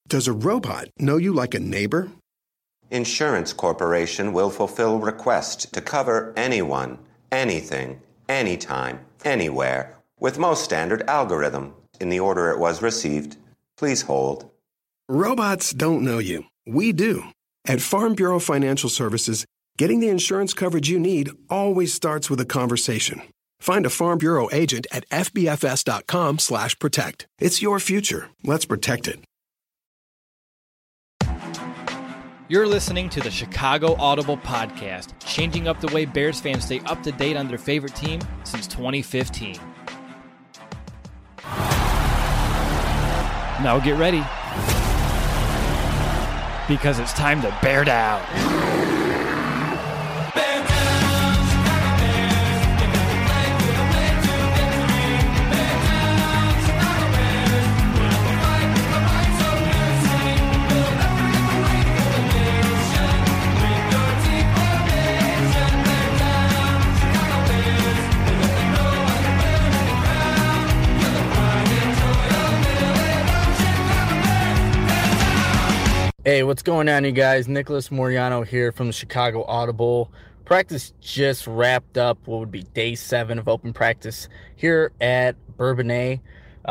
Does a robot know you like a neighbor? Insurance Corporation will fulfill requests to cover anyone, anything, anytime, anywhere, with most standard algorithm in the order it was received. Please hold. Robots don't know you. We do. At Farm Bureau Financial Services, getting the insurance coverage you need always starts with a conversation. Find a Farm Bureau agent at fbfs.com/protect. It's your future. Let's protect it. You're listening to the Chicago Audible Podcast, changing up the way Bears fans stay up to date on their favorite team since 2015. Now get ready, because it's time to bear down. Hey, what's going on, you guys? Nicholas Moriano here from the Chicago Audible. Practice just wrapped up what would be day 7 of open practice here at Bourbonnais.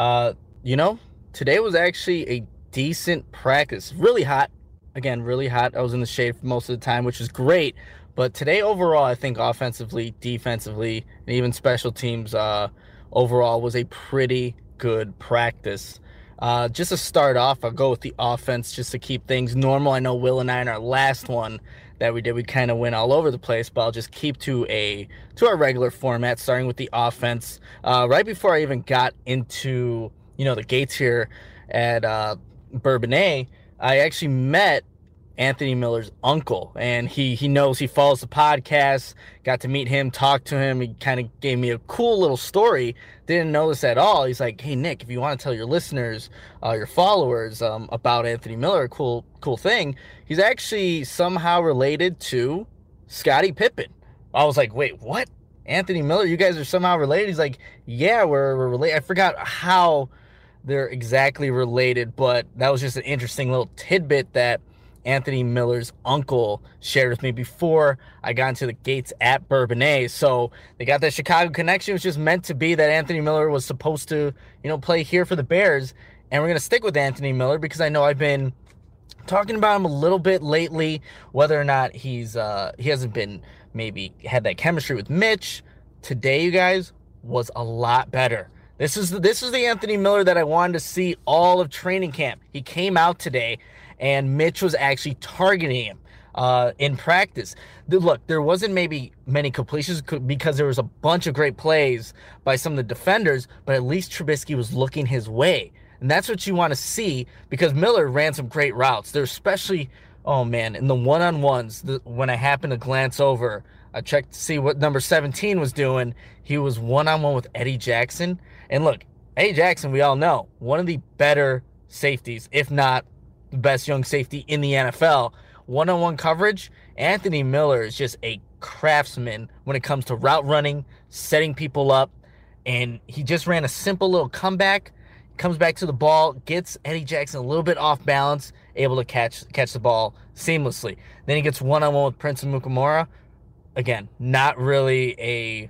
Today was actually a decent practice. Really hot. Again, really hot. I was in the shade for most of the time, which is great. But today overall, I think offensively, defensively, and even special teams overall was a pretty good practice. Just to start off, I'll go with the offense just to keep things normal. I know Will and I in our last one that we did, we kind of went all over the place, but I'll just keep to our regular format, starting with the offense. Right before I even got into, the gates here at Bourbonnais, I actually met Anthony Miller's uncle, and he knows, he follows the podcast, got to meet him, talk to him. He kind of gave me a cool little story. Didn't know this at all. He's like, hey, Nick, if you want to tell your listeners, your followers, about Anthony Miller, a cool thing, he's actually somehow related to Scottie Pippen. I was like, wait, what? Anthony Miller, you guys are somehow related? He's like, yeah, we're related. I forgot how they're exactly related, but that was just an interesting little tidbit that Anthony Miller's uncle shared with me before I got into the gates at Bourbonnais. So they got that Chicago connection. It was just meant to be that Anthony Miller was supposed to, play here for the Bears. And we're going to stick with Anthony Miller because I know I've been talking about him a little bit lately, whether or not he hasn't been maybe had that chemistry with Mitch. Today, you guys, was a lot better. This is the Anthony Miller that I wanted to see all of training camp. He came out today, and Mitch was actually targeting him in practice. Look, there wasn't maybe many completions because there was a bunch of great plays by some of the defenders, but at least Trubisky was looking his way. And that's what you want to see, because Miller ran some great routes. They're especially, in the one-on-ones, when I happened to glance over, I checked to see what number 17 was doing. He was one-on-one with Eddie Jackson. And look, Eddie Jackson, we all know, one of the better safeties, if not the best young safety in the NFL. One-on-one coverage, Anthony Miller is just a craftsman when it comes to route running, setting people up, and he just ran a simple little comeback, comes back to the ball, gets Eddie Jackson a little bit off balance, able to catch the ball seamlessly. Then he gets one-on-one with Prince Amukamara. Again, not really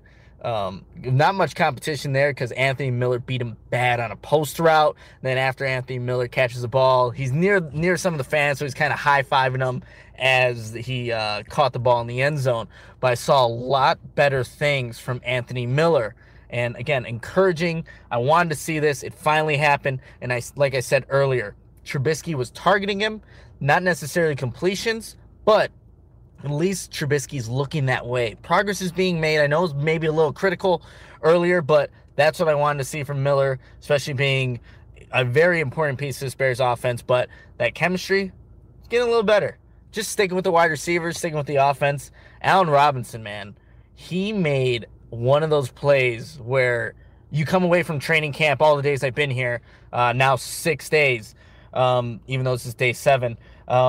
not much competition there because Anthony Miller beat him bad on a post route. Then after Anthony Miller catches the ball, he's near some of the fans, so he's kind of high-fiving them as he caught the ball in the end zone. But I saw a lot better things from Anthony Miller. And again, encouraging. I wanted to see this. It finally happened. And like I said earlier, Trubisky was targeting him, not necessarily completions, but at least Trubisky's looking that way. Progress is being made. I know it was maybe a little critical earlier, but that's what I wanted to see from Miller, especially being a very important piece of this Bears offense. But that chemistry is getting a little better. Just sticking with the wide receivers, sticking with the offense. Allen Robinson, man, he made one of those plays where you come away from training camp, all the days I've been here, now 6 days, even though this is day 7,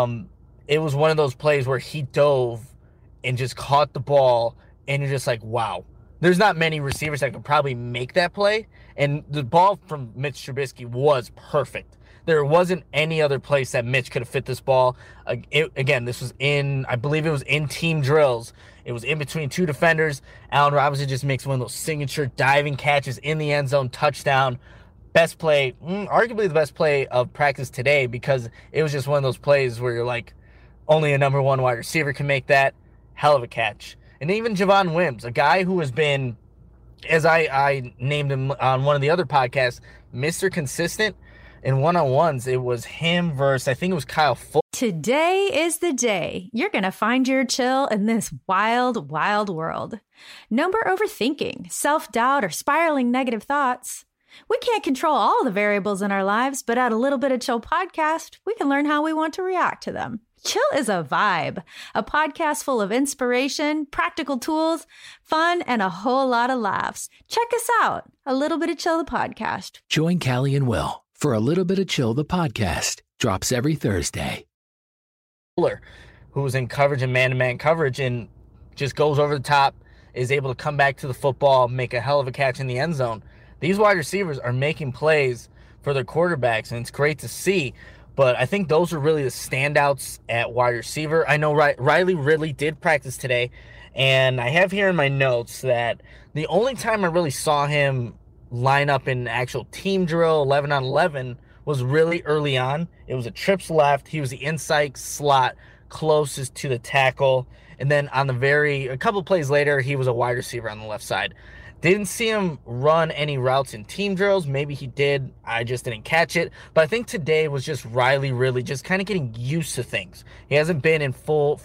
it was one of those plays where he dove and just caught the ball, and you're just like, wow. There's not many receivers that could probably make that play, and the ball from Mitch Trubisky was perfect. There wasn't any other place that Mitch could have fit this ball. Again, this was I believe it was in team drills. It was in between two defenders. Allen Robinson just makes one of those signature diving catches in the end zone, touchdown. Best play, arguably the best play of practice today, because it was just one of those plays where you're like, only a number one wide receiver can make that. Hell of a catch. And even Javon Wims, a guy who has been, as I named him on one of the other podcasts, Mr. Consistent. In one-on-ones, it was him versus, I think it was Kyle Fuller. Today is the day you're going to find your chill in this wild, wild world. No more overthinking, self-doubt, or spiraling negative thoughts. We can't control all the variables in our lives, but at A Little Bit of Chill podcast, we can learn how we want to react to them. Chill is a vibe, a podcast full of inspiration, practical tools, fun, and a whole lot of laughs. Check us out, A Little Bit of Chill, the podcast. Join Callie and Will for A Little Bit of Chill, the podcast. Drops every Thursday. Fuller, who was in coverage and man-to-man coverage and just goes over the top, is able to come back to the football, make a hell of a catch in the end zone. These wide receivers are making plays for their quarterbacks, and it's great to see. But I think those are really the standouts at wide receiver. I know Riley Ridley did practice today, and I have here in my notes that the only time I really saw him line up in actual team drill 11 on 11 was really early on. It was a trips left. He was the inside slot closest to the tackle. And then a couple plays later, he was a wide receiver on the left side. Didn't see him run any routes in team drills. Maybe he did. I just didn't catch it. But I think today was just Riley really just kind of getting used to things. He hasn't been in full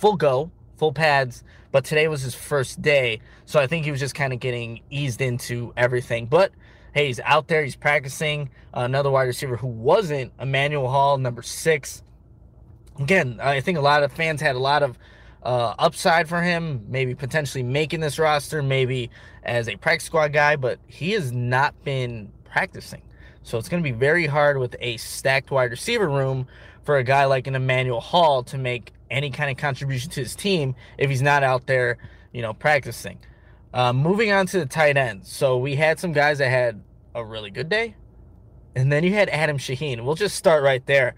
pads, but today was his first day. So I think he was just kind of getting eased into everything. But hey, he's out there. He's practicing. Another wide receiver who wasn't, Emmanuel Hall, number 6. Again, I think a lot of fans had a lot of upside for him, maybe potentially making this roster, maybe as a practice squad guy, but he has not been practicing. So it's going to be very hard with a stacked wide receiver room for a guy like an Emmanuel Hall to make any kind of contribution to his team if he's not out there, practicing. Moving on to the tight ends. So we had some guys that had a really good day, and then you had Adam Shaheen. We'll just start right there.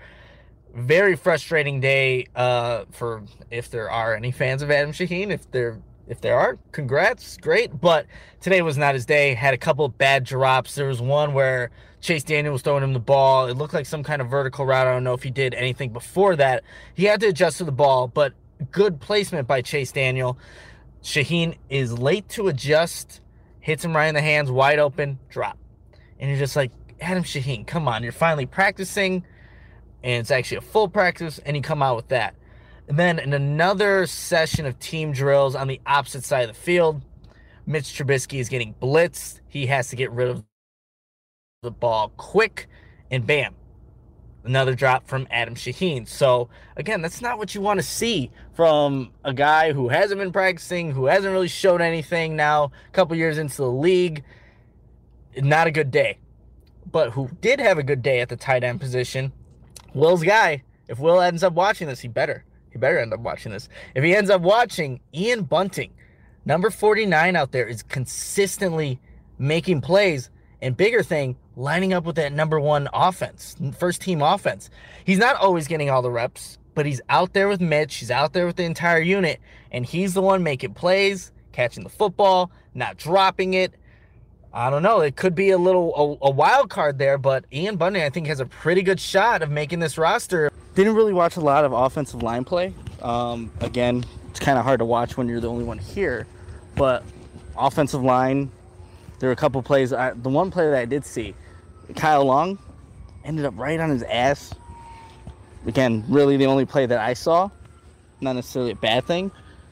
Very frustrating day for if there are any fans of Adam Shaheen. If there are, congrats, great. But today was not his day. Had a couple of bad drops. There was one where Chase Daniel was throwing him the ball. It looked like some kind of vertical route. I don't know if he did anything before that. He had to adjust to the ball, but good placement by Chase Daniel. Shaheen is late to adjust, hits him right in the hands, wide open, drop. And you're just like, Adam Shaheen, come on. You're finally practicing, and it's actually a full practice, and you come out with that. And then in another session of team drills on the opposite side of the field, Mitch Trubisky is getting blitzed. He has to get rid of the ball quick, and bam, another drop from Adam Shaheen. So, again, that's not what you want to see from a guy who hasn't been practicing, who hasn't really showed anything now, a couple years into the league. Not a good day. But who did have a good day at the tight end position, Will's guy. If Will ends up watching this, he better end up watching this. If he ends up watching, Ian Bunting, number 49 out there, is consistently making plays, and bigger thing, lining up with that number 1 offense, first team offense. He's not always getting all the reps, but he's out there with Mitch. He's out there with the entire unit, and he's the one making plays, catching the football, not dropping it. I don't know. It could be a wild card there, but Ian Bunting, I think, has a pretty good shot of making this roster. Didn't really watch a lot of offensive line play. Again, it's kind of hard to watch when you're the only one here. But offensive line, there were a couple plays. The one play that I did see, Kyle Long ended up right on his ass. Again, really the only play that I saw. Not necessarily a bad thing.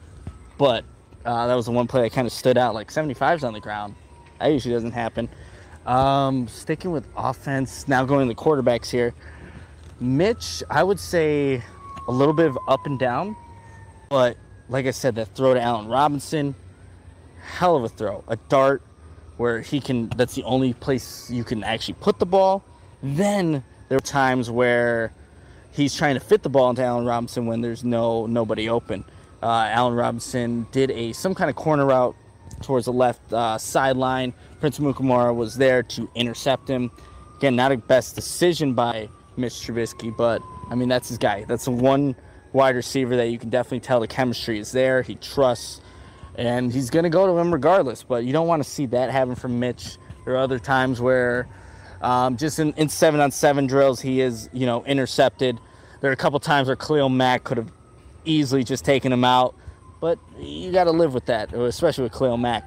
But that was the one play that kind of stood out, like 75's on the ground. That usually doesn't happen. Sticking with offense, now going to the quarterbacks here. Mitch, I would say a little bit of up and down. But like I said, that throw to Allen Robinson, hell of a throw. A dart where that's the only place you can actually put the ball. Then there are times where he's trying to fit the ball into Allen Robinson when there's nobody open. Allen Robinson did some kind of corner route towards the left sideline. Prince Mukamara was there to intercept him. Again, not a best decision by Mitch Trubisky, but I mean, that's his guy. That's the one wide receiver that you can definitely tell the chemistry is there. He trusts, and he's going to go to him regardless, but you don't want to see that happen from Mitch. There are other times where just in 7-on-7 drills, he is, intercepted. There are a couple times where Khalil Mack could have easily just taken him out, but you got to live with that, especially with Khalil Mack.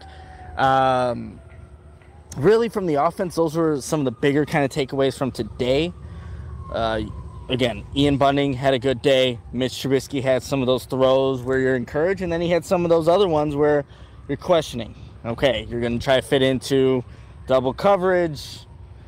Really, from the offense, those were some of the bigger kind of takeaways from today. Again, Ian Bunting had a good day. Mitch Trubisky had some of those throws where you're encouraged, and then he had some of those other ones where you're questioning. Okay, you're going to try to fit into double coverage.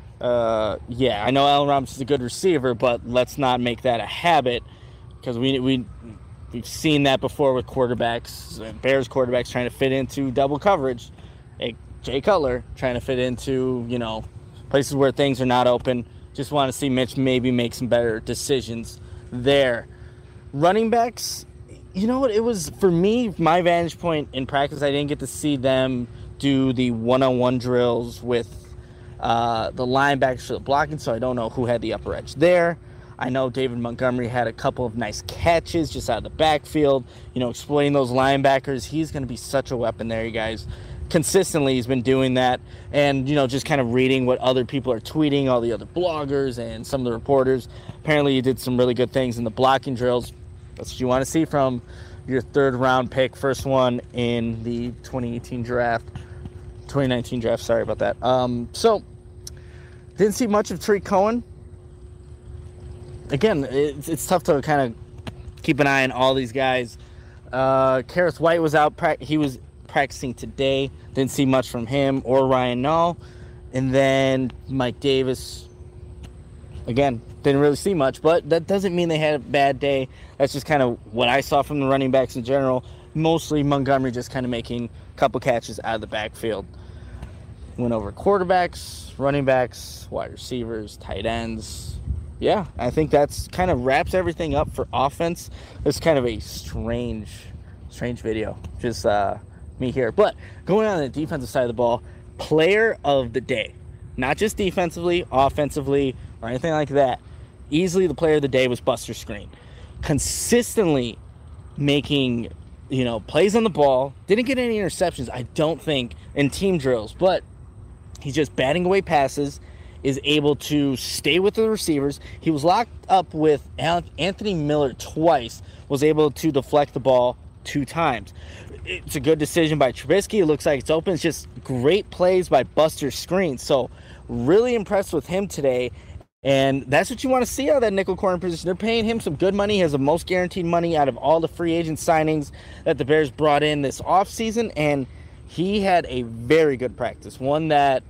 Yeah, I know Allen Robinson's a good receiver, but let's not make that a habit, because we've seen that before with quarterbacks, Bears quarterbacks trying to fit into double coverage. Jay Cutler trying to fit into, places where things are not open. Just want to see Mitch maybe make some better decisions there. Running backs, you know what? It was, for me, my vantage point in practice, I didn't get to see them do the one-on-one drills with the linebackers for the blocking, so I don't know who had the upper edge there. I know David Montgomery had a couple of nice catches just out of the backfield, exploiting those linebackers. He's going to be such a weapon there, you guys. Consistently, he's been doing that, and just kind of reading what other people are tweeting, all the other bloggers and some of the reporters. Apparently, he did some really good things in the blocking drills. That's what you want to see from your third-round pick, first one in the 2019 draft. Sorry about that. So, didn't see much of Tariq Cohen. Again, it's tough to kind of keep an eye on all these guys. Kareth White was out. He was practicing today. Didn't see much from him or Ryan Nall. And then Mike Davis, again, didn't really see much, but that doesn't mean they had a bad day. That's just kind of what I saw from the running backs in general. Mostly Montgomery just kind of making a couple catches out of the backfield. Went over quarterbacks, running backs, wide receivers, tight ends. Yeah, I think that's kind of wraps everything up for offense. It's kind of a strange video. Just me here. But going on the defensive side of the ball, player of the day. Not just defensively, offensively, or anything like that. Easily the player of the day was Buster Skrine. Consistently making, plays on the ball. Didn't get any interceptions, I don't think, in team drills. But he's just batting away passes, is able to stay with the receivers. He was locked up with Anthony Miller twice, was able to deflect the ball 2 times. It's a good decision by Trubisky. It looks like it's open. It's just great plays by Buster Skrine. So really impressed with him today. And that's what you want to see out of that nickel corner position. They're paying him some good money. He has the most guaranteed money out of all the free agent signings that the Bears brought in this offseason. And he had a very good practice. One that,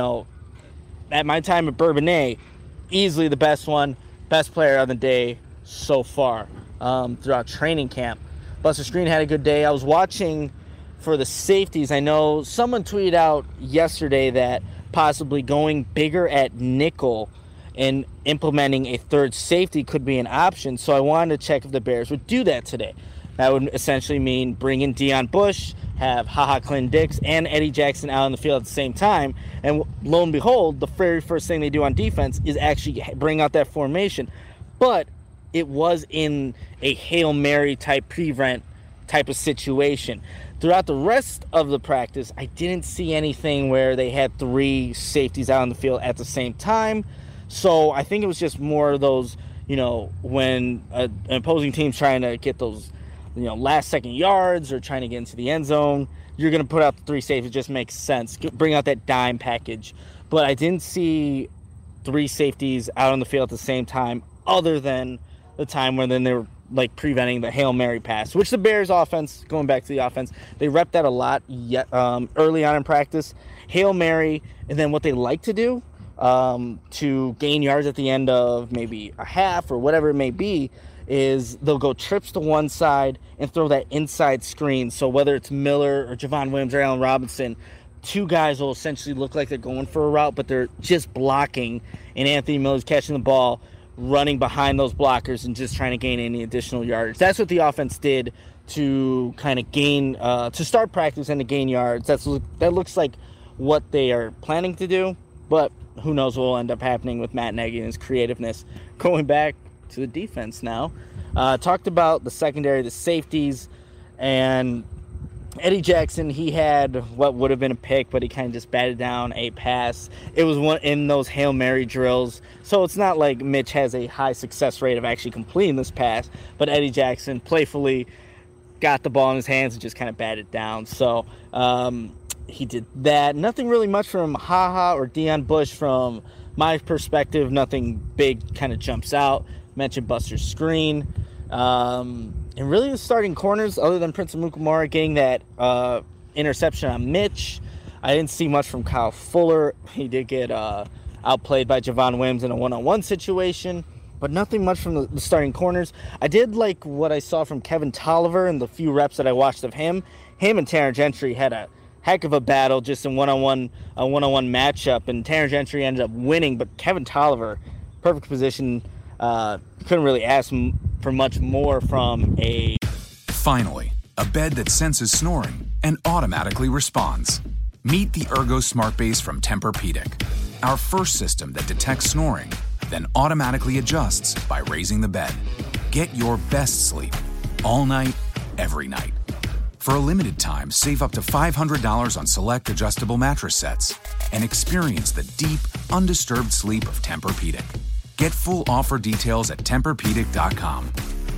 at my time at Bourbonnais, easily the best one, best player of the day so far throughout training camp. Buster Skrine had a good day. I was watching for the safeties. I know someone tweeted out yesterday that possibly going bigger at nickel and implementing a third safety could be an option. So I wanted to check if the Bears would do that today. That would essentially mean bring in Deion Bush, have HaHa Clinton-Dix and Eddie Jackson out on the field at the same time. And lo and behold, the very first thing they do on defense is actually bring out that formation. But it was in a Hail Mary type prevent type of situation. Throughout the rest of the practice, I didn't see anything where they had 3 safeties out on the field at the same time. So I think it was just more of those, when an opposing team's trying to get those, last second yards or trying to get into the end zone, you're going to put out the 3 safeties. It just makes sense. Bring out that dime package. But I didn't see 3 safeties out on the field at the same time, other than the time when then they were preventing the Hail Mary pass, which the Bears offense, going back to the offense, they rep that a lot early on in practice. Hail Mary, and then what they like to do to gain yards at the end of maybe a half or whatever it may be is they'll go trips to one side and throw that inside screen. So whether it's Miller or Javon Williams or Allen Robinson, 2 guys will essentially look like they're going for a route, but they're just blocking, and Anthony Miller's catching the ball, running behind those blockers and just trying to gain any additional yards. That's what the offense did to kind of gain, to start practice and to gain yards. That looks like what they are planning to do. But who knows what will end up happening with Matt Nagy and his creativeness. Going back to the defense now, talked about the secondary, the safeties, and Eddie Jackson. He had what would have been a pick, but he kind of just batted down a pass. It was one in those Hail Mary drills, so it's not like Mitch has a high success rate of actually completing this pass, but Eddie Jackson playfully got the ball in his hands and just kind of batted down. So he did that. Nothing really much from HaHa or Deion Bush from my perspective. Nothing big kind of jumps out. Mentioned Buster Skrine. And really the starting corners, other than Prince Amukamara getting that interception on Mitch, I didn't see much from Kyle Fuller. He did get outplayed by Javon Wims in a one-on-one situation, but nothing much from the starting corners. I did like what I saw from Kevin Tolliver and the few reps that I watched of him. Him and Tanner Gentry had a heck of a battle just in a one-on-one matchup, and Tanner Gentry ended up winning, but Kevin Tolliver, perfect position, couldn't really ask for much more from a... Finally, a bed that senses snoring and automatically responds. Meet the Ergo Smart Base from Tempur-Pedic, our first system that detects snoring, then automatically adjusts by raising the bed. Get your best sleep all night, every night. For a limited time, save up to $500 on select adjustable mattress sets and experience the deep, undisturbed sleep of Tempur-Pedic. Get full offer details at TempurPedic.com.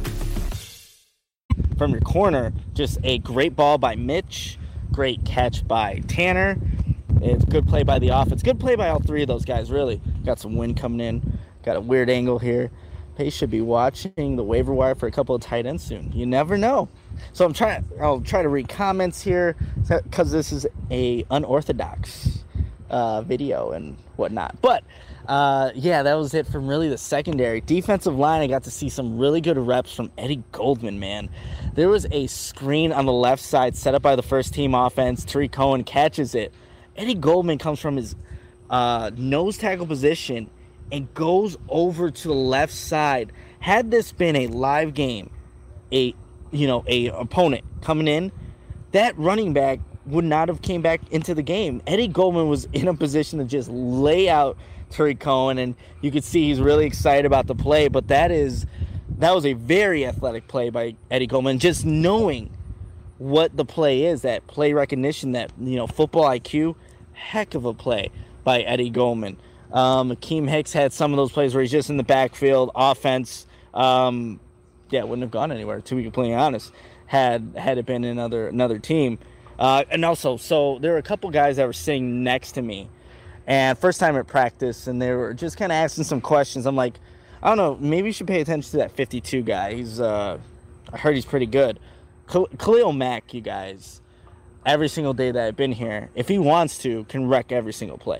From your corner, just a great ball by Mitch, great catch by Tanner. It's good play by the offense. Good play by all three of those guys, really. Got some wind coming in. Got a weird angle here. Pace should be watching the waiver wire for a couple of tight ends soon. You never know. So I'll try to read comments here because this is a unorthodox video and whatnot. But yeah, that was it from really the secondary. Defensive line, I got to see some really good reps from Eddie Goldman, man. There was a screen on the left side set up by the first team offense. Tariq Cohen catches it. Eddie Goldman comes from his nose tackle position and goes over to the left side. Had this been a live game, a opponent coming in, that running back would not have came back into the game. Eddie Goldman was in a position to just lay out Tariq Cohen, and you could see he's really excited about the play, but that was a very athletic play by Eddie Goldman. Just knowing what the play is, that play recognition, that football IQ, heck of a play by Eddie Goldman. Akeem Hicks had some of those plays where he's just in the backfield. Offense, wouldn't have gone anywhere, to be completely honest, had it been another team. And also, so there were a couple guys that were sitting next to me, and first time at practice, and they were just kind of asking some questions. I'm like, I don't know, maybe you should pay attention to that 52 guy. He's, I heard he's pretty good. Khalil Mack, you guys, every single day that I've been here, if he wants to, can wreck every single play.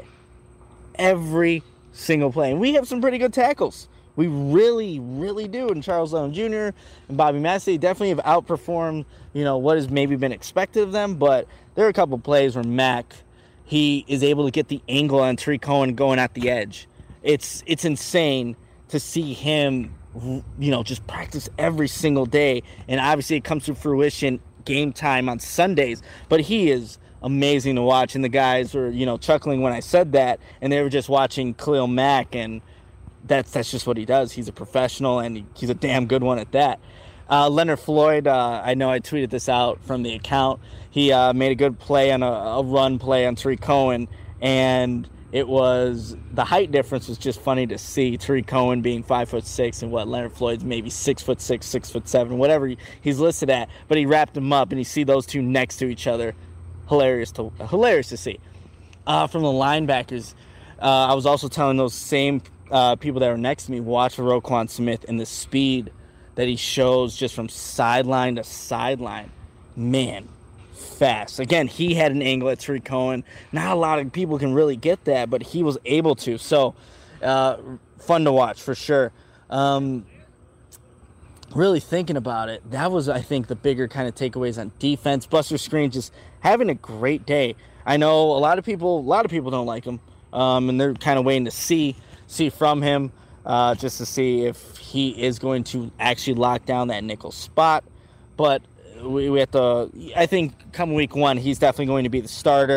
Every single play. And we have some pretty good tackles. We really, really do. And Charles Lone Jr. and Bobby Massey definitely have outperformed, what has maybe been expected of them. But there are a couple plays where Mack, he is able to get the angle on Tariq Cohen going at the edge. It's insane to see him, just practice every single day. And obviously it comes to fruition game time on Sundays. But he is amazing to watch. And the guys were, chuckling when I said that. And they were just watching Khalil Mack, and that's just what he does. He's a professional, and he's a damn good one at that. Leonard Floyd, I know I tweeted this out from the account. He made a good play on a run play on Tariq Cohen, and it was the height difference was just funny to see. Tariq Cohen being 5'6" and Leonard Floyd's maybe 6'6", 6'7", whatever he's listed at. But he wrapped him up, and you see those two next to each other. Hilarious to see. From the linebackers, I was also telling those same people that were next to me, watch Roquan Smith and the speed that he shows just from sideline to sideline. Man, fast. Again, he had an angle at Tariq Cohen. Not a lot of people can really get that, but he was able to. So, fun to watch for sure. Really thinking about it, that was, I think, the bigger kind of takeaways on defense. Buster Skrine just having a great day. I know a lot of people don't like him, and they're kind of waiting to see from him, just to see if he is going to actually lock down that nickel spot. But we have to, I think come week one, he's definitely going to be the starter.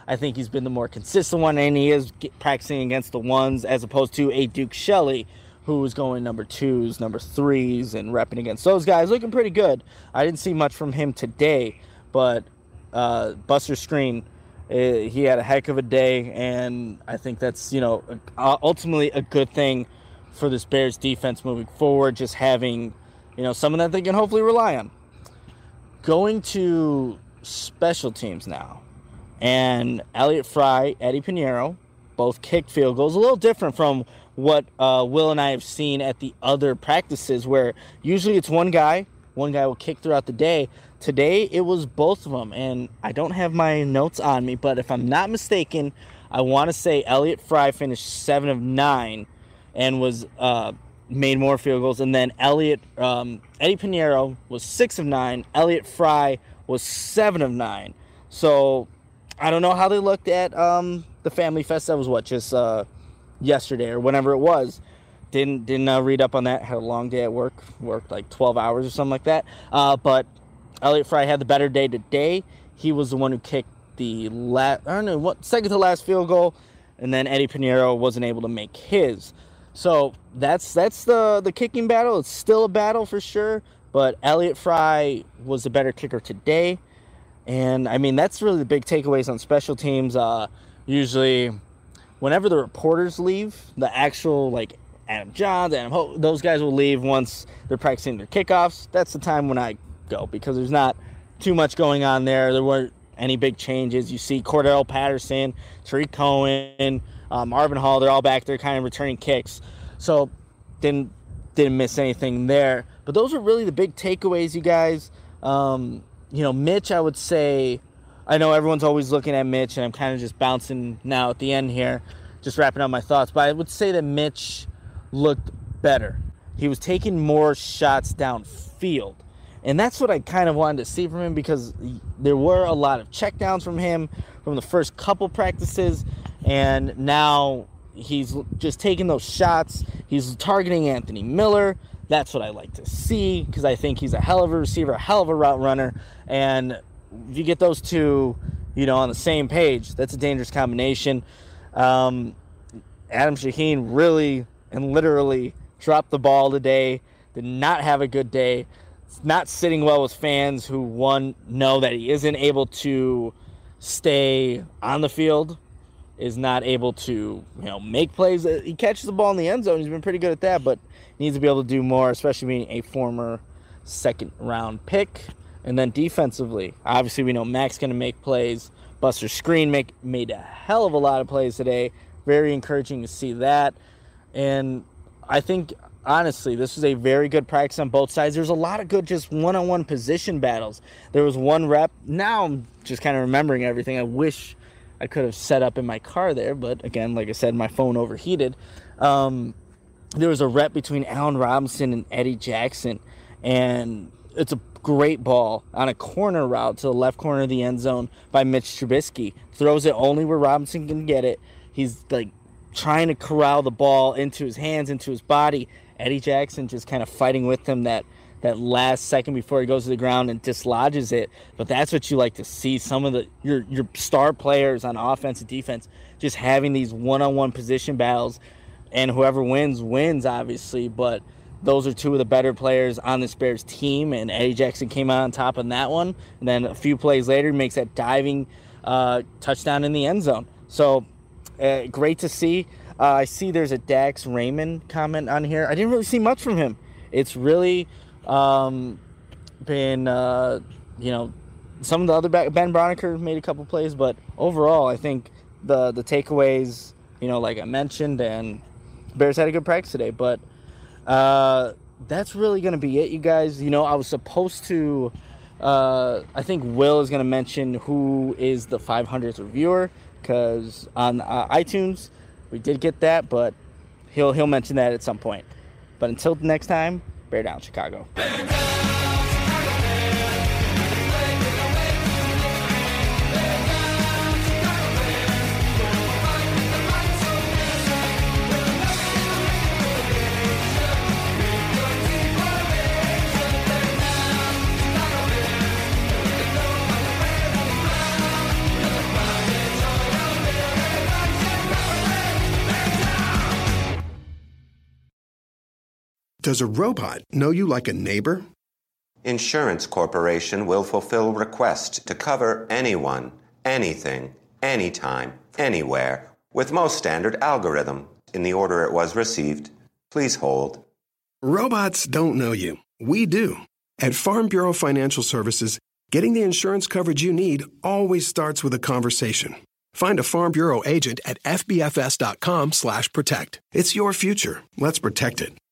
I think he's been the more consistent one, and he is practicing against the ones as opposed to a Duke Shelley, who was going number 2s, number 3s, and repping against those guys, looking pretty good. I didn't see much from him today, but Buster Skrine, he had a heck of a day, and I think that's, ultimately a good thing for this Bears defense moving forward, just having, someone that they can hopefully rely on. Going to special teams now, and Elliott Fry, Eddie Pinheiro, both kicked field goals, a little different from what Will and I have seen at the other practices, where usually it's one guy will kick throughout the day. Today it was both of them, and I don't have my notes on me, but if I'm not mistaken, I want to say Elliott Fry finished 7 of 9 and was made more field goals, and then Eddie Pinheiro was 6 of 9. Elliott Fry was 7 of 9. So I don't know how they looked at the Family Fest. That was just yesterday or whenever it was. Didn't read up on that. Had a long day at work. Worked like 12 hours or something like that. But Elliott Fry had the better day today. He was the one who kicked the second to last field goal, and then Eddie Pinheiro wasn't able to make his. So that's the kicking battle. It's still a battle for sure, but Elliott Fry was the better kicker today. And, I mean, that's really the big takeaways on special teams. Usually, whenever the reporters leave, the actual, Adam Johns, Adam Hope, those guys will leave once they're practicing their kickoffs. That's the time when I go, because there's not too much going on there. There weren't any big changes. You see Cordell Patterson, Tariq Cohen, Marvin Hall, they're all back there kind of returning kicks. So, didn't miss anything there. But those are really the big takeaways, you guys. Mitch, I would say, I know everyone's always looking at Mitch, and I'm kind of just bouncing now at the end here, just wrapping up my thoughts. But I would say that Mitch looked better. He was taking more shots downfield. And that's what I kind of wanted to see from him, because there were a lot of checkdowns from him from the first couple practices. And now he's just taking those shots. He's targeting Anthony Miller. That's what I like to see, because I think he's a hell of a receiver, a hell of a route runner. And if you get those two, on the same page, that's a dangerous combination. Adam Shaheen really and literally dropped the ball today, did not have a good day. It's not sitting well with fans who, one, know that he isn't able to stay on the field, is not able to, make plays. He catches the ball in the end zone. He's been pretty good at that, but needs to be able to do more, especially being a former second-round pick. And then defensively, obviously we know Mac's going to make plays. Buster Skrine made a hell of a lot of plays today. Very encouraging to see that. And I think, honestly, this was a very good practice on both sides. There's a lot of good just one-on-one position battles. There was one rep. Now I'm just kind of remembering everything. I wish I could have set up in my car there, but again, like I said, my phone overheated. There was a rep between Allen Robinson and Eddie Jackson, and it's a great ball on a corner route to the left corner of the end zone by Mitch Trubisky. Throws it only where Robinson can get it. He's trying to corral the ball into his hands, into his body. Eddie Jackson just kind of fighting with him that last second before he goes to the ground and dislodges it. But that's what you like to see. Some of your star players on offense and defense just having these one-on-one position battles, and whoever wins, obviously. But those are two of the better players on this Bears team, and Eddie Jackson came out on top on that one. And then a few plays later, makes that diving touchdown in the end zone. So great to see. I see there's a Dax Raymond comment on here. I didn't really see much from him. It's really been, some of the other Ben Broniker made a couple plays, but overall, I think the takeaways, like I mentioned, and Bears had a good practice today. But that's really going to be it, you guys. I was supposed to, I think Will is going to mention who is the 500th reviewer, because on iTunes, we did get that, but he'll mention that at some point. But until next time, Bear down, Chicago. does a robot know you like a neighbor? Insurance Corporation will fulfill request to cover anyone, anything, anytime, anywhere, with most standard algorithm in the order it was received. Please hold. Robots don't know you. We do. At Farm Bureau Financial Services, getting the insurance coverage you need always starts with a conversation. Find a Farm Bureau agent at fbfs.com/protect. It's your future. Let's protect it.